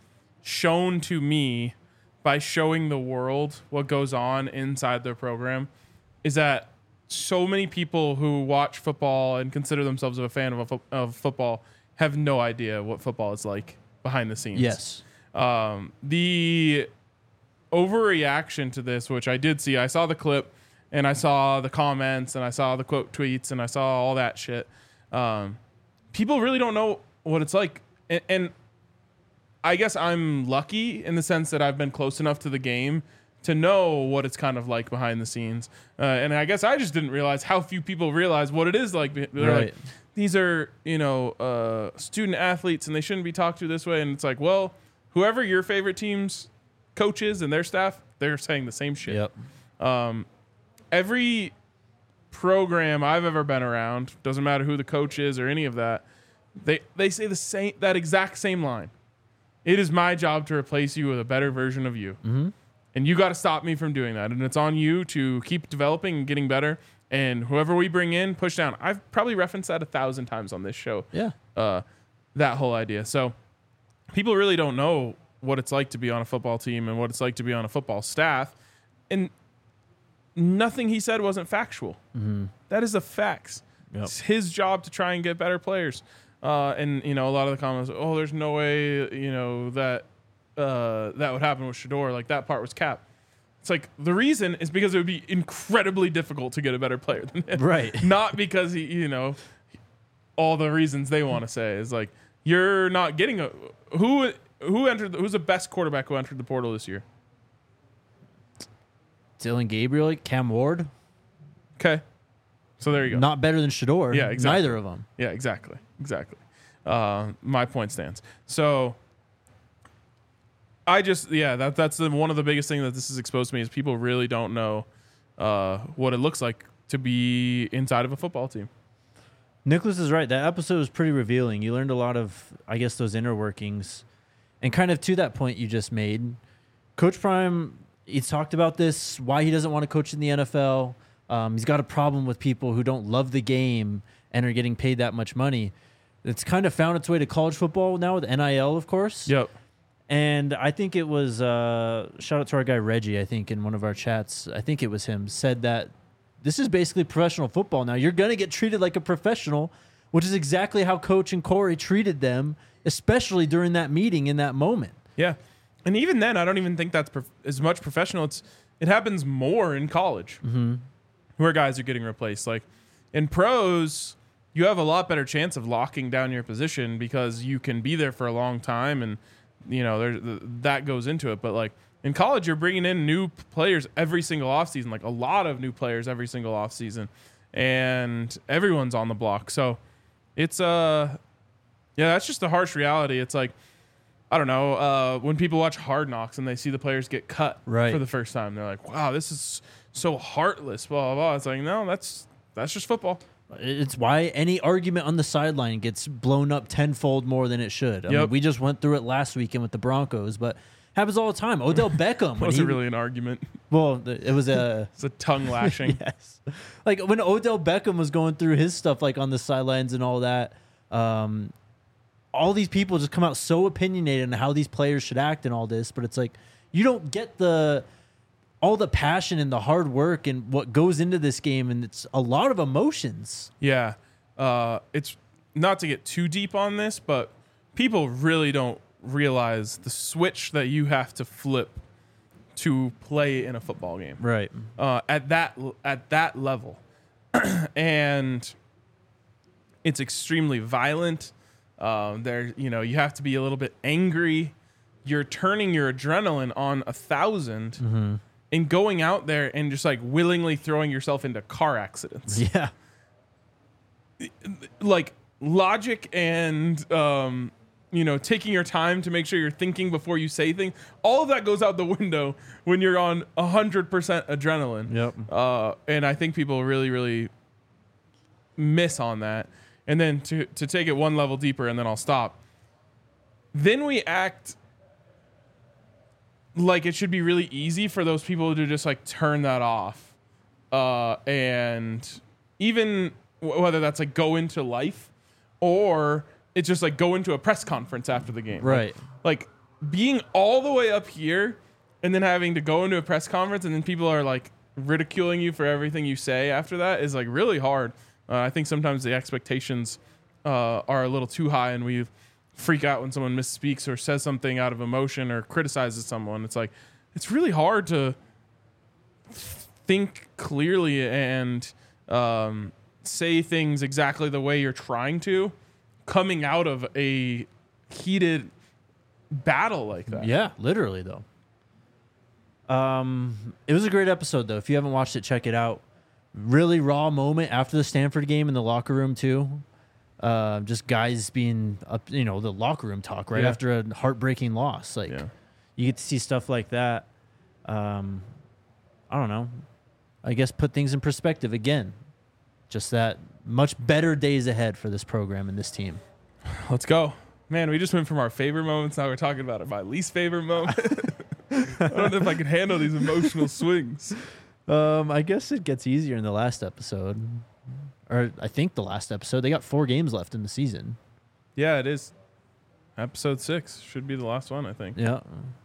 shown to me by showing the world what goes on inside their program is that so many people who watch football and consider themselves a fan of football have no idea what football is like behind the scenes. Yes. The overreaction to this, which I did see, I saw the clip and I saw the comments and I saw the quote tweets and I saw all that shit. People really don't know what it's like. And I guess I'm lucky in the sense that I've been close enough to the game to know what it's kind of like behind the scenes. And I guess I just didn't realize how few people realize what it is like. They're like, these are, student athletes and they shouldn't be talked to this way. And it's like, well, whoever your favorite team's coach is and their staff, they're saying the same shit. Yep. Every program I've ever been around, doesn't matter who the coach is or any of that, they say that exact same line. It is my job to replace you with a better version of you. Mm-hmm. And you got to stop me from doing that. And it's on you to keep developing and getting better. And whoever we bring in, push down. I've probably referenced that 1,000 times on this show. Yeah. That whole idea. So people really don't know what it's like to be on a football team and what it's like to be on a football staff. And nothing he said wasn't factual. Mm-hmm. That is the facts. Yep. It's his job to try and get better players. And a lot of the comments, there's no way, that would happen with Shedeur. Like, that part was cap. It's like, the reason is because it would be incredibly difficult to get a better player than him. Right. Not because he, all the reasons they want to say is like, you're not getting who's the best quarterback who entered the portal this year? Dillon Gabriel, Cam Ward. Okay. So there you go. Not better than Shedeur. Yeah, exactly. Neither of them. Yeah, exactly. My point stands. So that's one of the biggest things that this has exposed to me is people really don't know what it looks like to be inside of a football team. Nicholas is right. That episode was pretty revealing. You learned a lot of, I guess, those inner workings. And kind of to that point you just made, Coach Prime, he's talked about this, why he doesn't want to coach in the NFL. He's got a problem with people who don't love the game and are getting paid that much money. It's kind of found its way to college football now with NIL, of course. Yep. And I think it was, shout out to our guy Reggie, I think, in one of our chats, I think it was him, said that this is basically professional football now. You're going to get treated like a professional, which is exactly how Coach and Corey treated them, especially during that meeting in that moment. Yeah. And even then, I don't even think that's as much professional. It happens more in college where guys are getting replaced. Like in pros, you have a lot better chance of locking down your position because you can be there for a long time and, that goes into it. But like in college, you're bringing in new players every single offseason, like a lot of new players every single offseason, and everyone's on the block. So it's, that's just the harsh reality. It's like, I don't know, when people watch Hard Knocks and they see the players get cut for the first time, they're like, wow, this is so heartless, blah, blah, blah. It's like, no, that's just football. It's why any argument on the sideline gets blown up tenfold more than it should. I mean, we just went through it last weekend with the Broncos, but happens all the time. Odell Beckham. Wasn't really an argument. Well, it was it's a tongue lashing. Yes. Like when Odell Beckham was going through his stuff like on the sidelines and all that, all these people just come out so opinionated on how these players should act and all this, but it's like you don't get all the passion and the hard work and what goes into this game, and it's a lot of emotions. Yeah. It's not to get too deep on this, but people really don't realize the switch that you have to flip to play in a football game. Right. At that level. And it's extremely violent. You have to be a little bit angry. You're turning your adrenaline on 1,000 and going out there and just like willingly throwing yourself into car accidents. Yeah. Like logic and, taking your time to make sure you're thinking before you say things. All of that goes out the window when you're on 100% adrenaline. Yep. And I think people really, really miss on that. And then to take it one level deeper, and then I'll stop. Then we act like it should be really easy for those people to just like turn that off. And even whether that's like go into life or it's just like go into a press conference after the game. Right. Like being all the way up here and then having to go into a press conference and then people are like ridiculing you for everything you say after that is like really hard. I think sometimes the expectations are a little too high and we freak out when someone misspeaks or says something out of emotion or criticizes someone. It's like, it's really hard to think clearly and say things exactly the way you're trying to coming out of a heated battle like that. Yeah, literally though. It was a great episode though. If you haven't watched it, check it out. Really raw moment after the Stanford game in the locker room too. Just guys being up, the locker room talk right after a heartbreaking loss. Like you get to see stuff like that. I don't know. I guess put things in perspective again. Just that much better days ahead for this program and this team. Let's go. Man, we just went from our favorite moments. Now we're talking about my least favorite moment. I don't know if I can handle these emotional swings. I guess it gets easier in the last episode. Or I think the last episode. They got 4 games left in the season. Yeah, it is. Episode 6 should be the last one, I think. Yeah.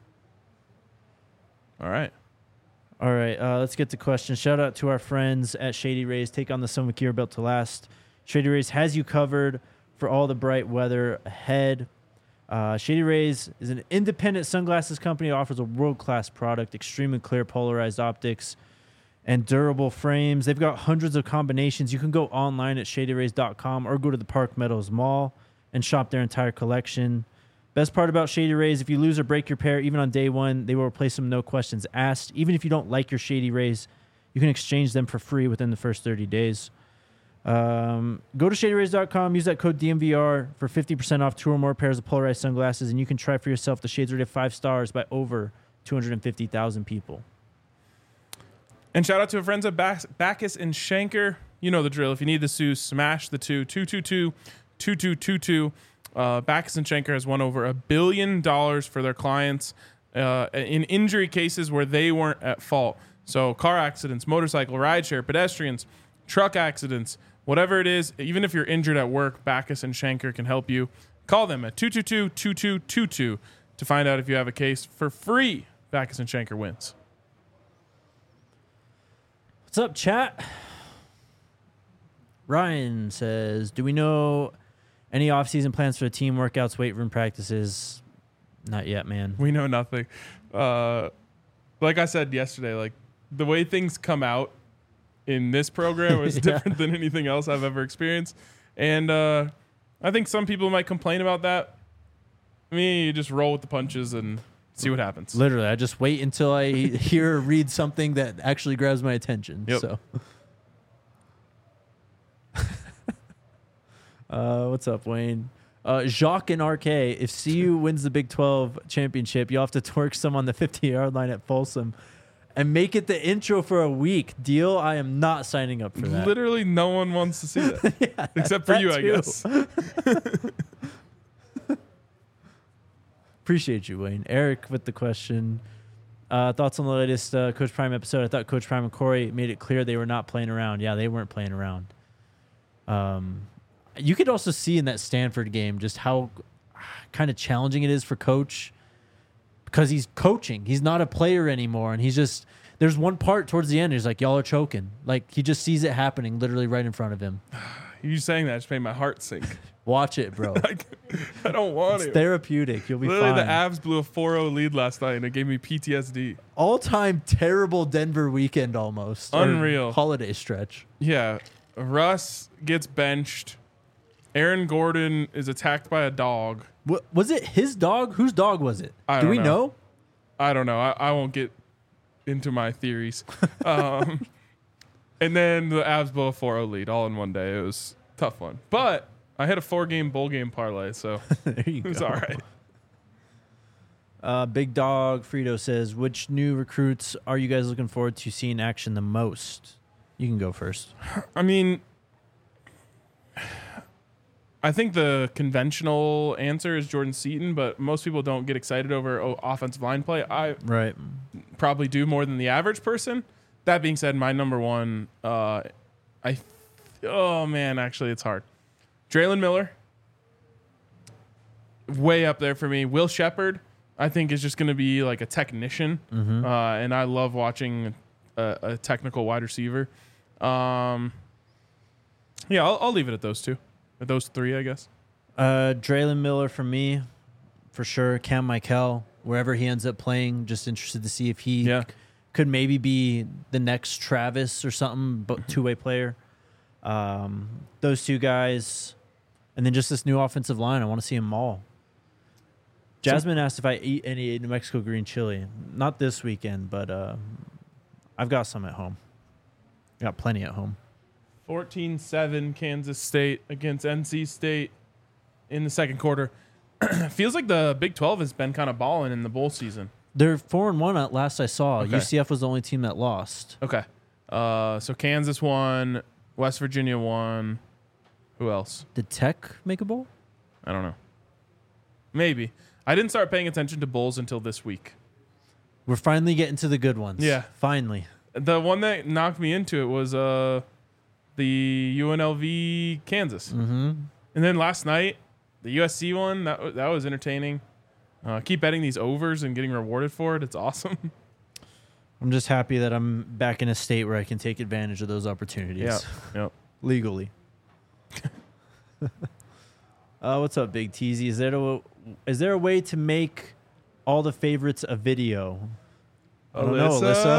All right. Let's get to questions. Shout out to our friends at Shady Rays. Take on the summer gear built to last. Shady Rays has you covered for all the bright weather ahead. Shady Rays is an independent sunglasses company that offers a world-class product, extremely clear polarized optics, and durable frames. They've got hundreds of combinations. You can go online at shadyrays.com or go to the Park Meadows Mall and shop their entire collection. Best part about Shady Rays, if you lose or break your pair, even on day one, they will replace them, no questions asked. Even if you don't like your Shady Rays, you can exchange them for free within the first 30 days. Go to shadyrays.com, use that code DMVR for 50% off 2 or more pairs of polarized sunglasses, and you can try for yourself. The shades rated 5 stars by over 250,000 people. And shout out to our friends at Backus and Schenker. You know the drill. If you need the Sue, smash the 222-2222. Backus and Schenker has won over $1 billion for their clients in injury cases where they weren't at fault. So car accidents, motorcycle, rideshare, pedestrians, truck accidents, whatever it is, even if you're injured at work, Backus and Schenker can help you. Call them at 222-2222 to find out if you have a case for free. Backus and Schenker wins. What's up, chat? Ryan says, do we know any off-season plans for the team workouts, weight room practices? Not yet, man. We know nothing. Like I said yesterday, like the way things come out in this program is different than anything else I've ever experienced. And I think some people might complain about that. I mean, you just roll with the punches and see what happens. Literally, I just wait until I hear or read something that actually grabs my attention. Yep. So, what's up, Wayne? Jacques and RK, if CU wins the Big 12 championship, you'll have to twerk some on the 50-yard line at Folsom and make it the intro for a week. Deal? I am not signing up for that. Literally no one wants to see that. Yeah, except for you, too. I guess. Appreciate you, Wayne. Eric with the question. Thoughts on the latest Coach Prime episode? I thought Coach Prime and Corey made it clear they were not playing around. Yeah, they weren't playing around. You could also see in that Stanford game just how kind of challenging it is for Coach because he's coaching. He's not a player anymore. And he's just, there's one part towards the end, he's like, y'all are choking. Like, he just sees it happening literally right in front of him. You saying that just made my heart sink. Watch it, bro. I don't want it's it. Therapeutic. You'll be Literally, fine. the Avs blew a 4-0 lead last night, and it gave me PTSD. All-time terrible Denver weekend almost. Unreal. Or holiday stretch. Yeah. Russ gets benched. Aaron Gordon is attacked by a dog. What, was it his dog? Whose dog was it? Do we know? I don't know. I won't get into my theories. And then the Avs blow a 4-0 lead all in one day. It was a tough one. But I had a 4-game bowl game parlay, so There you it was go. all right. Big Dog Frito says, which new recruits are you guys looking forward to seeing in action the most? You can go first. I mean, I think the conventional answer is Jordan Seaton, but most people don't get excited over offensive line play. I Right. probably do more than the average person. That being said, my number one, actually, it's hard. Draylen Miller, way up there for me. Will Shepherd, I think is just going to be like a technician, and I love watching a technical wide receiver. Yeah, I'll leave it at those two, at those three, I guess. Draylon Miller for me, for sure. Cam Michael, wherever he ends up playing, just interested to see if he could maybe be the next Travis or something, but two-way player. Those two guys, and then just this new offensive line. I want to see them all. Jasmine asked if I eat any New Mexico green chili. Not this weekend, but I've got some at home. Got plenty at home. 14-7 Kansas State against NC State in the second quarter. Feels like the Big 12 has been kind of balling in the bowl season. They're 4-1 at last I saw. Okay. UCF was the only team that lost. Okay. So Kansas won, West Virginia won. Who else? Did Tech make a bowl? I don't know. Maybe. I didn't start paying attention to bowls until this week. We're finally getting to the good ones. Yeah. Finally. The one that knocked me into it was the UNLV Kansas. Mm-hmm. And then last night, the USC one, that was entertaining. Keep betting these overs and getting rewarded for it. It's awesome. I'm just happy that I'm back in a state where I can take advantage of those opportunities. Yeah. Legally. What's up, Big Teasy? Is there a way to make all the favorites a video? I don't know,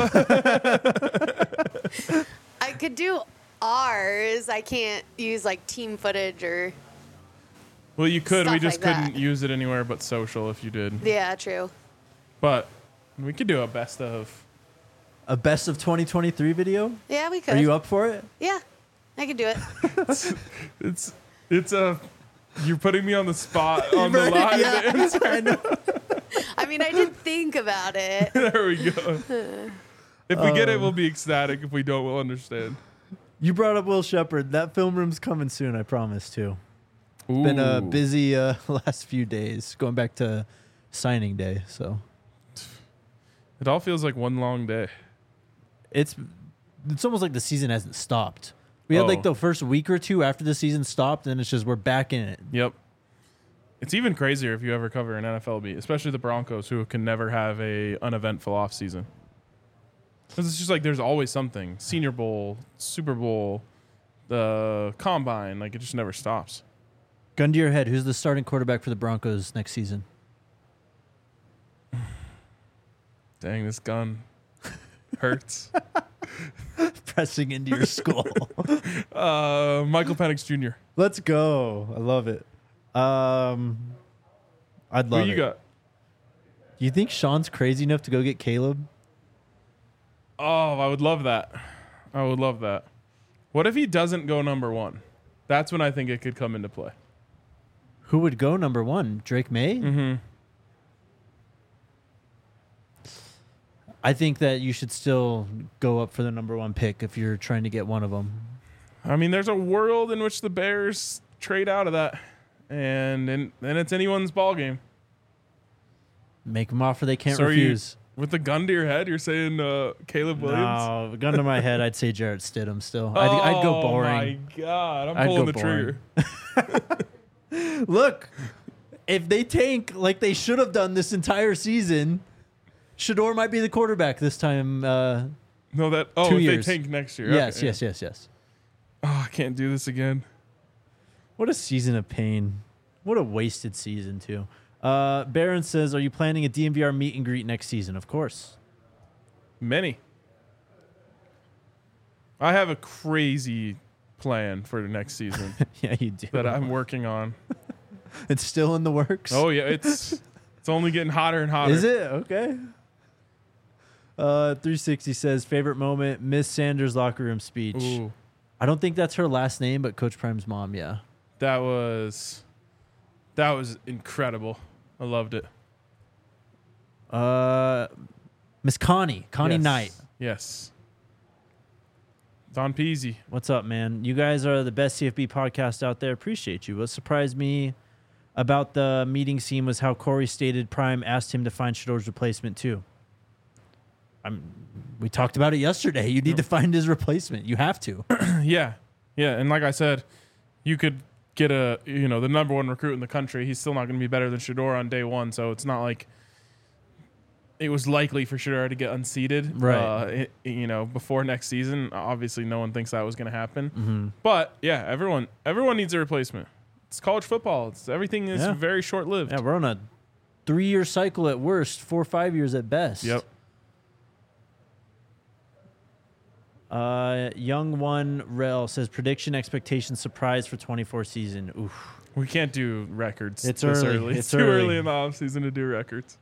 Alyssa. I could do ours. I can't use like team footage or. Well, you could. We Stuff just like couldn't that. use it anywhere but social if you did. Yeah, true. But we could do a best of. A best of 2023 video? Yeah, we could. Are you up for it? Yeah, I could do it. It's a. You're putting me on the spot on the live. Yeah, I know. I mean, I did think about it. There we go. If we get it, we'll be ecstatic. If we don't, we'll understand. You brought up Will Shepherd. That film room's coming soon, I promise, too. Ooh. Been a busy last few days, going back to signing day. So It all feels like one long day. it's almost like the season hasn't stopped. We had like the first week or two after the season stopped, and it's just we're back in it. Yep. It's even crazier if you ever cover an NFL beat, especially the Broncos, who can never have a uneventful offseason. Because it's just like there's always something. Senior Bowl, Super Bowl, the Combine. Like, it just never stops. Gun to your head, who's the starting quarterback for the Broncos next season? Dang, this gun hurts. Pressing into your skull. Michael Penix Jr. Let's go. I love it. I'd love it. Who you got? Do you think Sean's crazy enough to go get Caleb? Oh, I would love that. I would love that. What if he doesn't go number one? That's when I think it could come into play. Who would go number one? Drake May? Mm-hmm. I think that you should still go up for the number one pick if you're trying to get one of them. I mean, there's a world in which the Bears trade out of that, and then it's anyone's ball game. Make them offer they can't So refuse. With the gun to your head, you're saying Caleb Williams? No, gun to my head, I'd say Jarrett Stidham still. I'd go boring. Oh, my God. I'm I'd pulling go the trigger. Look, if they tank like they should have done this entire season, Shador might be the quarterback this time. No, that. Oh, 2 if years. they tank next year. Yes, Okay, yes, yes. Oh, I can't do this again. What a season of pain. What a wasted season, too. Barron says, are you planning a DMVR meet and greet next season? Of course. Many. I have a crazy plan for the next season Yeah, you do. that I'm working on. It's still in the works. Oh, yeah. It's only getting hotter and hotter. Is it? Okay. 360 says, favorite moment, Miss Sanders' locker room speech. Ooh, I don't think that's her last name, but Coach Prime's mom, yeah. that was incredible. I loved it. Miss Connie Yes. Knight. Yes. Don Peasy. What's up, man? You guys are the best CFB podcast out there. Appreciate you. What surprised me about the meeting scene was how Corey stated Prime asked him to find Shador's replacement, too. We talked about it yesterday. You need to find his replacement. You have to. Yeah. Yeah. And like I said, you could get the number one recruit in the country. He's still not going to be better than Shador on day one. So it's not like it was likely for Shedeur to get unseated, Right. Before next season. Obviously, no one thinks that was going to happen. Mm-hmm. But yeah, everyone needs a replacement. It's college football. Everything is very short lived. Yeah, we're on a 3-year cycle at worst, 4 or 5 years at best. Yep. Young One Rel says prediction, expectation, surprise for 24 season. Oof. We can't do records. It's this early. It's too early in the off season to do records.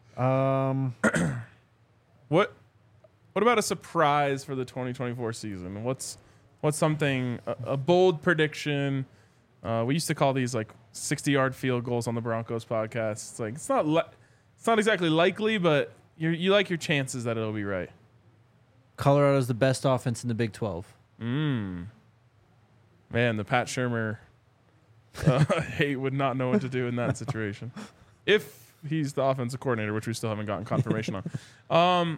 What about a surprise for the 2024 season? What's something a bold prediction? We used to call these like 60-yard field goals on the Broncos podcast. It's like it's not exactly likely, but you like your chances that it'll be right. Colorado's the best offense in the Big 12. Man, the Pat Shurmur hate would not know what to do in that situation. If he's the offensive coordinator, which we still haven't gotten confirmation on.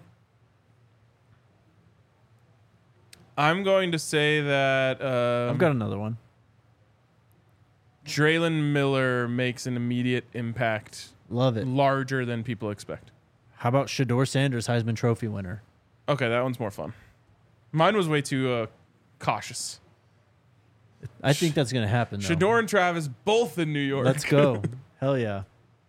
I'm going to say that I've got another one. Draylon Miller makes an immediate impact. Love it. Larger than people expect. How about Shedeur Sanders, Heisman Trophy winner? Okay, that one's more fun. Mine was way too cautious. I think that's going to happen, though. Shedeur and Travis both in New York. Let's go. Hell yeah.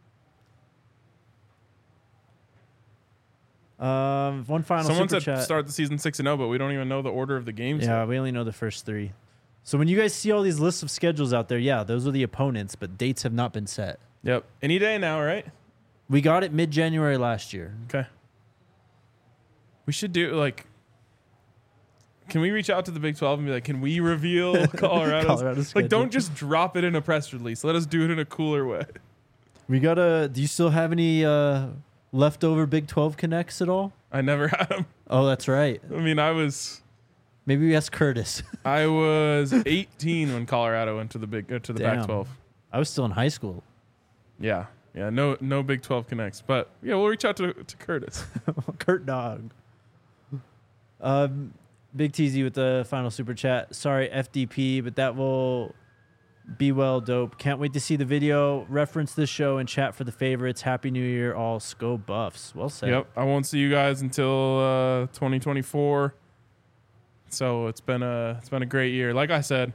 One final Someone super said chat. start the season 6-0, but we don't even know the order of the games. Yeah, yet. we only know the first 3. So when you guys see all these lists of schedules out there, yeah, those are the opponents, but dates have not been set. Yep. Any day now, right? We got it mid-January last year. Okay. We should do can we reach out to the Big 12 and be like, can we reveal Colorado's? Like, don't just drop it in a press release. Let us do it in a cooler way. We gotta. Do you still have any leftover Big 12 connects at all? I never had them. Oh, that's right. I mean, Maybe we ask Curtis. I was 18 when Colorado went to the Pac-12. I was still in high school. Yeah. Yeah, no Big 12 connects. But, yeah, we'll reach out to Curtis. Kurt Dog. Big TZ with the final super chat. Sorry, FDP, but that will be well dope. Can't wait to see the video. Reference this show and chat for the favorites. Happy New Year, all Sco Buffs. Well said. Yep. I won't see you guys until 2024. So it's been a great year. Like I said,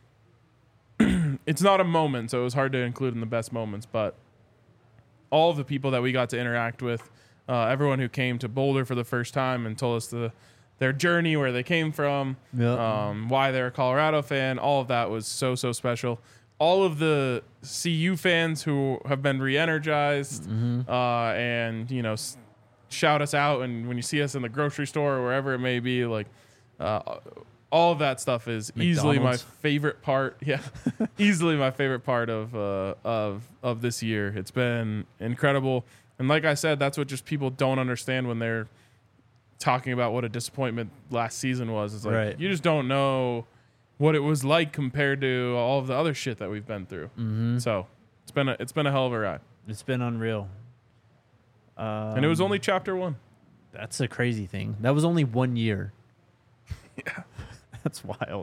it's not a moment, so it was hard to include in the best moments, but all of the people that we got to interact with, everyone who came to Boulder for the first time and told us their journey, where they came from, why they're a Colorado fan, all of that was so special. All of the CU fans who have been re-energized and shout us out, and when you see us in the grocery store or wherever it may be, all of that stuff is easily my favorite part. Yeah, easily my favorite part of this year. It's been incredible, and like I said, that's what just people don't understand when they're talking about what a disappointment last season was. It's like you just don't know what it was like compared to all of the other shit that we've been through. So it's been a hell of a ride. It's been unreal. And it was only chapter 1. That's a crazy thing. That was only 1 year. Yeah. That's wild.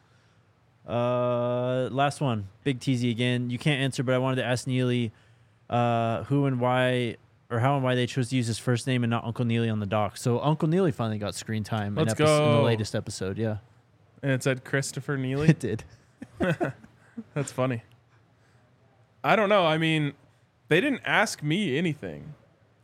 Last one. Big TZ again. You can't answer, but I wanted to ask Neely who and why, or how and why they chose to use his first name and not Uncle Neely on the doc. So Uncle Neely finally got screen time in the latest episode. Yeah. And it said Christopher Neely? It did. That's funny. I don't know. I mean, they didn't ask me anything.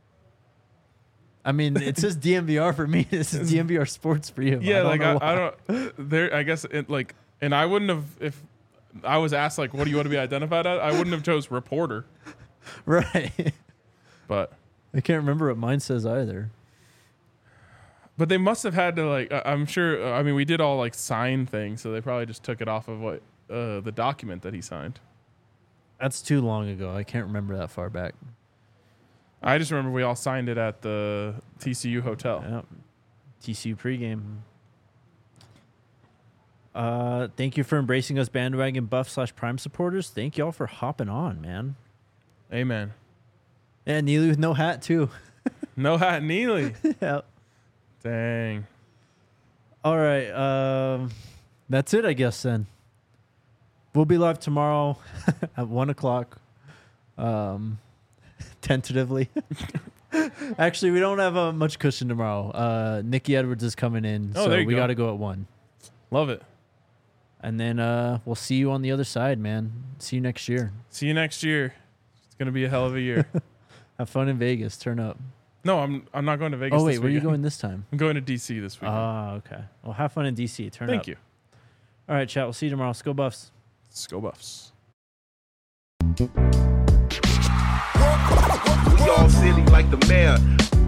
I mean, it says DMVR for me. This is DMVR Sports for you. Yeah, I don't. There, I guess and I wouldn't have, if I was asked what do you want to be identified as, I wouldn't have chose reporter. Right. But I can't remember what mine says either. But they must have had to I'm sure. I mean, we did all sign things, so they probably just took it off of what the document that he signed. That's too long ago. I can't remember that far back. I just remember we all signed it at the TCU hotel. Yep. TCU pregame. Thank you for embracing us bandwagon buff/prime supporters. Thank y'all for hopping on, man. Amen. And Neely with no hat too. No hat Neely. Yep. Dang. All right. That's it, I guess, then. We'll be live tomorrow at 1:00. Tentatively. Actually, we don't have much cushion tomorrow. Nikki Edwards is coming in, Oh, so there you we go. got to go at 1. Love it. And then we'll see you on the other side, man. See you next year. See you next year. It's gonna be a hell of a year. Have fun in Vegas. Turn up. No, I'm not going to Vegas. Oh, wait, this where are you weekend. going this time? I'm going to DC this weekend. Ah, okay. Well, have fun in D.C. Turn up. Thank you. All right, chat. We'll see you tomorrow. Let's go Buffs. Let's go Buffs. We all silly like the mayor.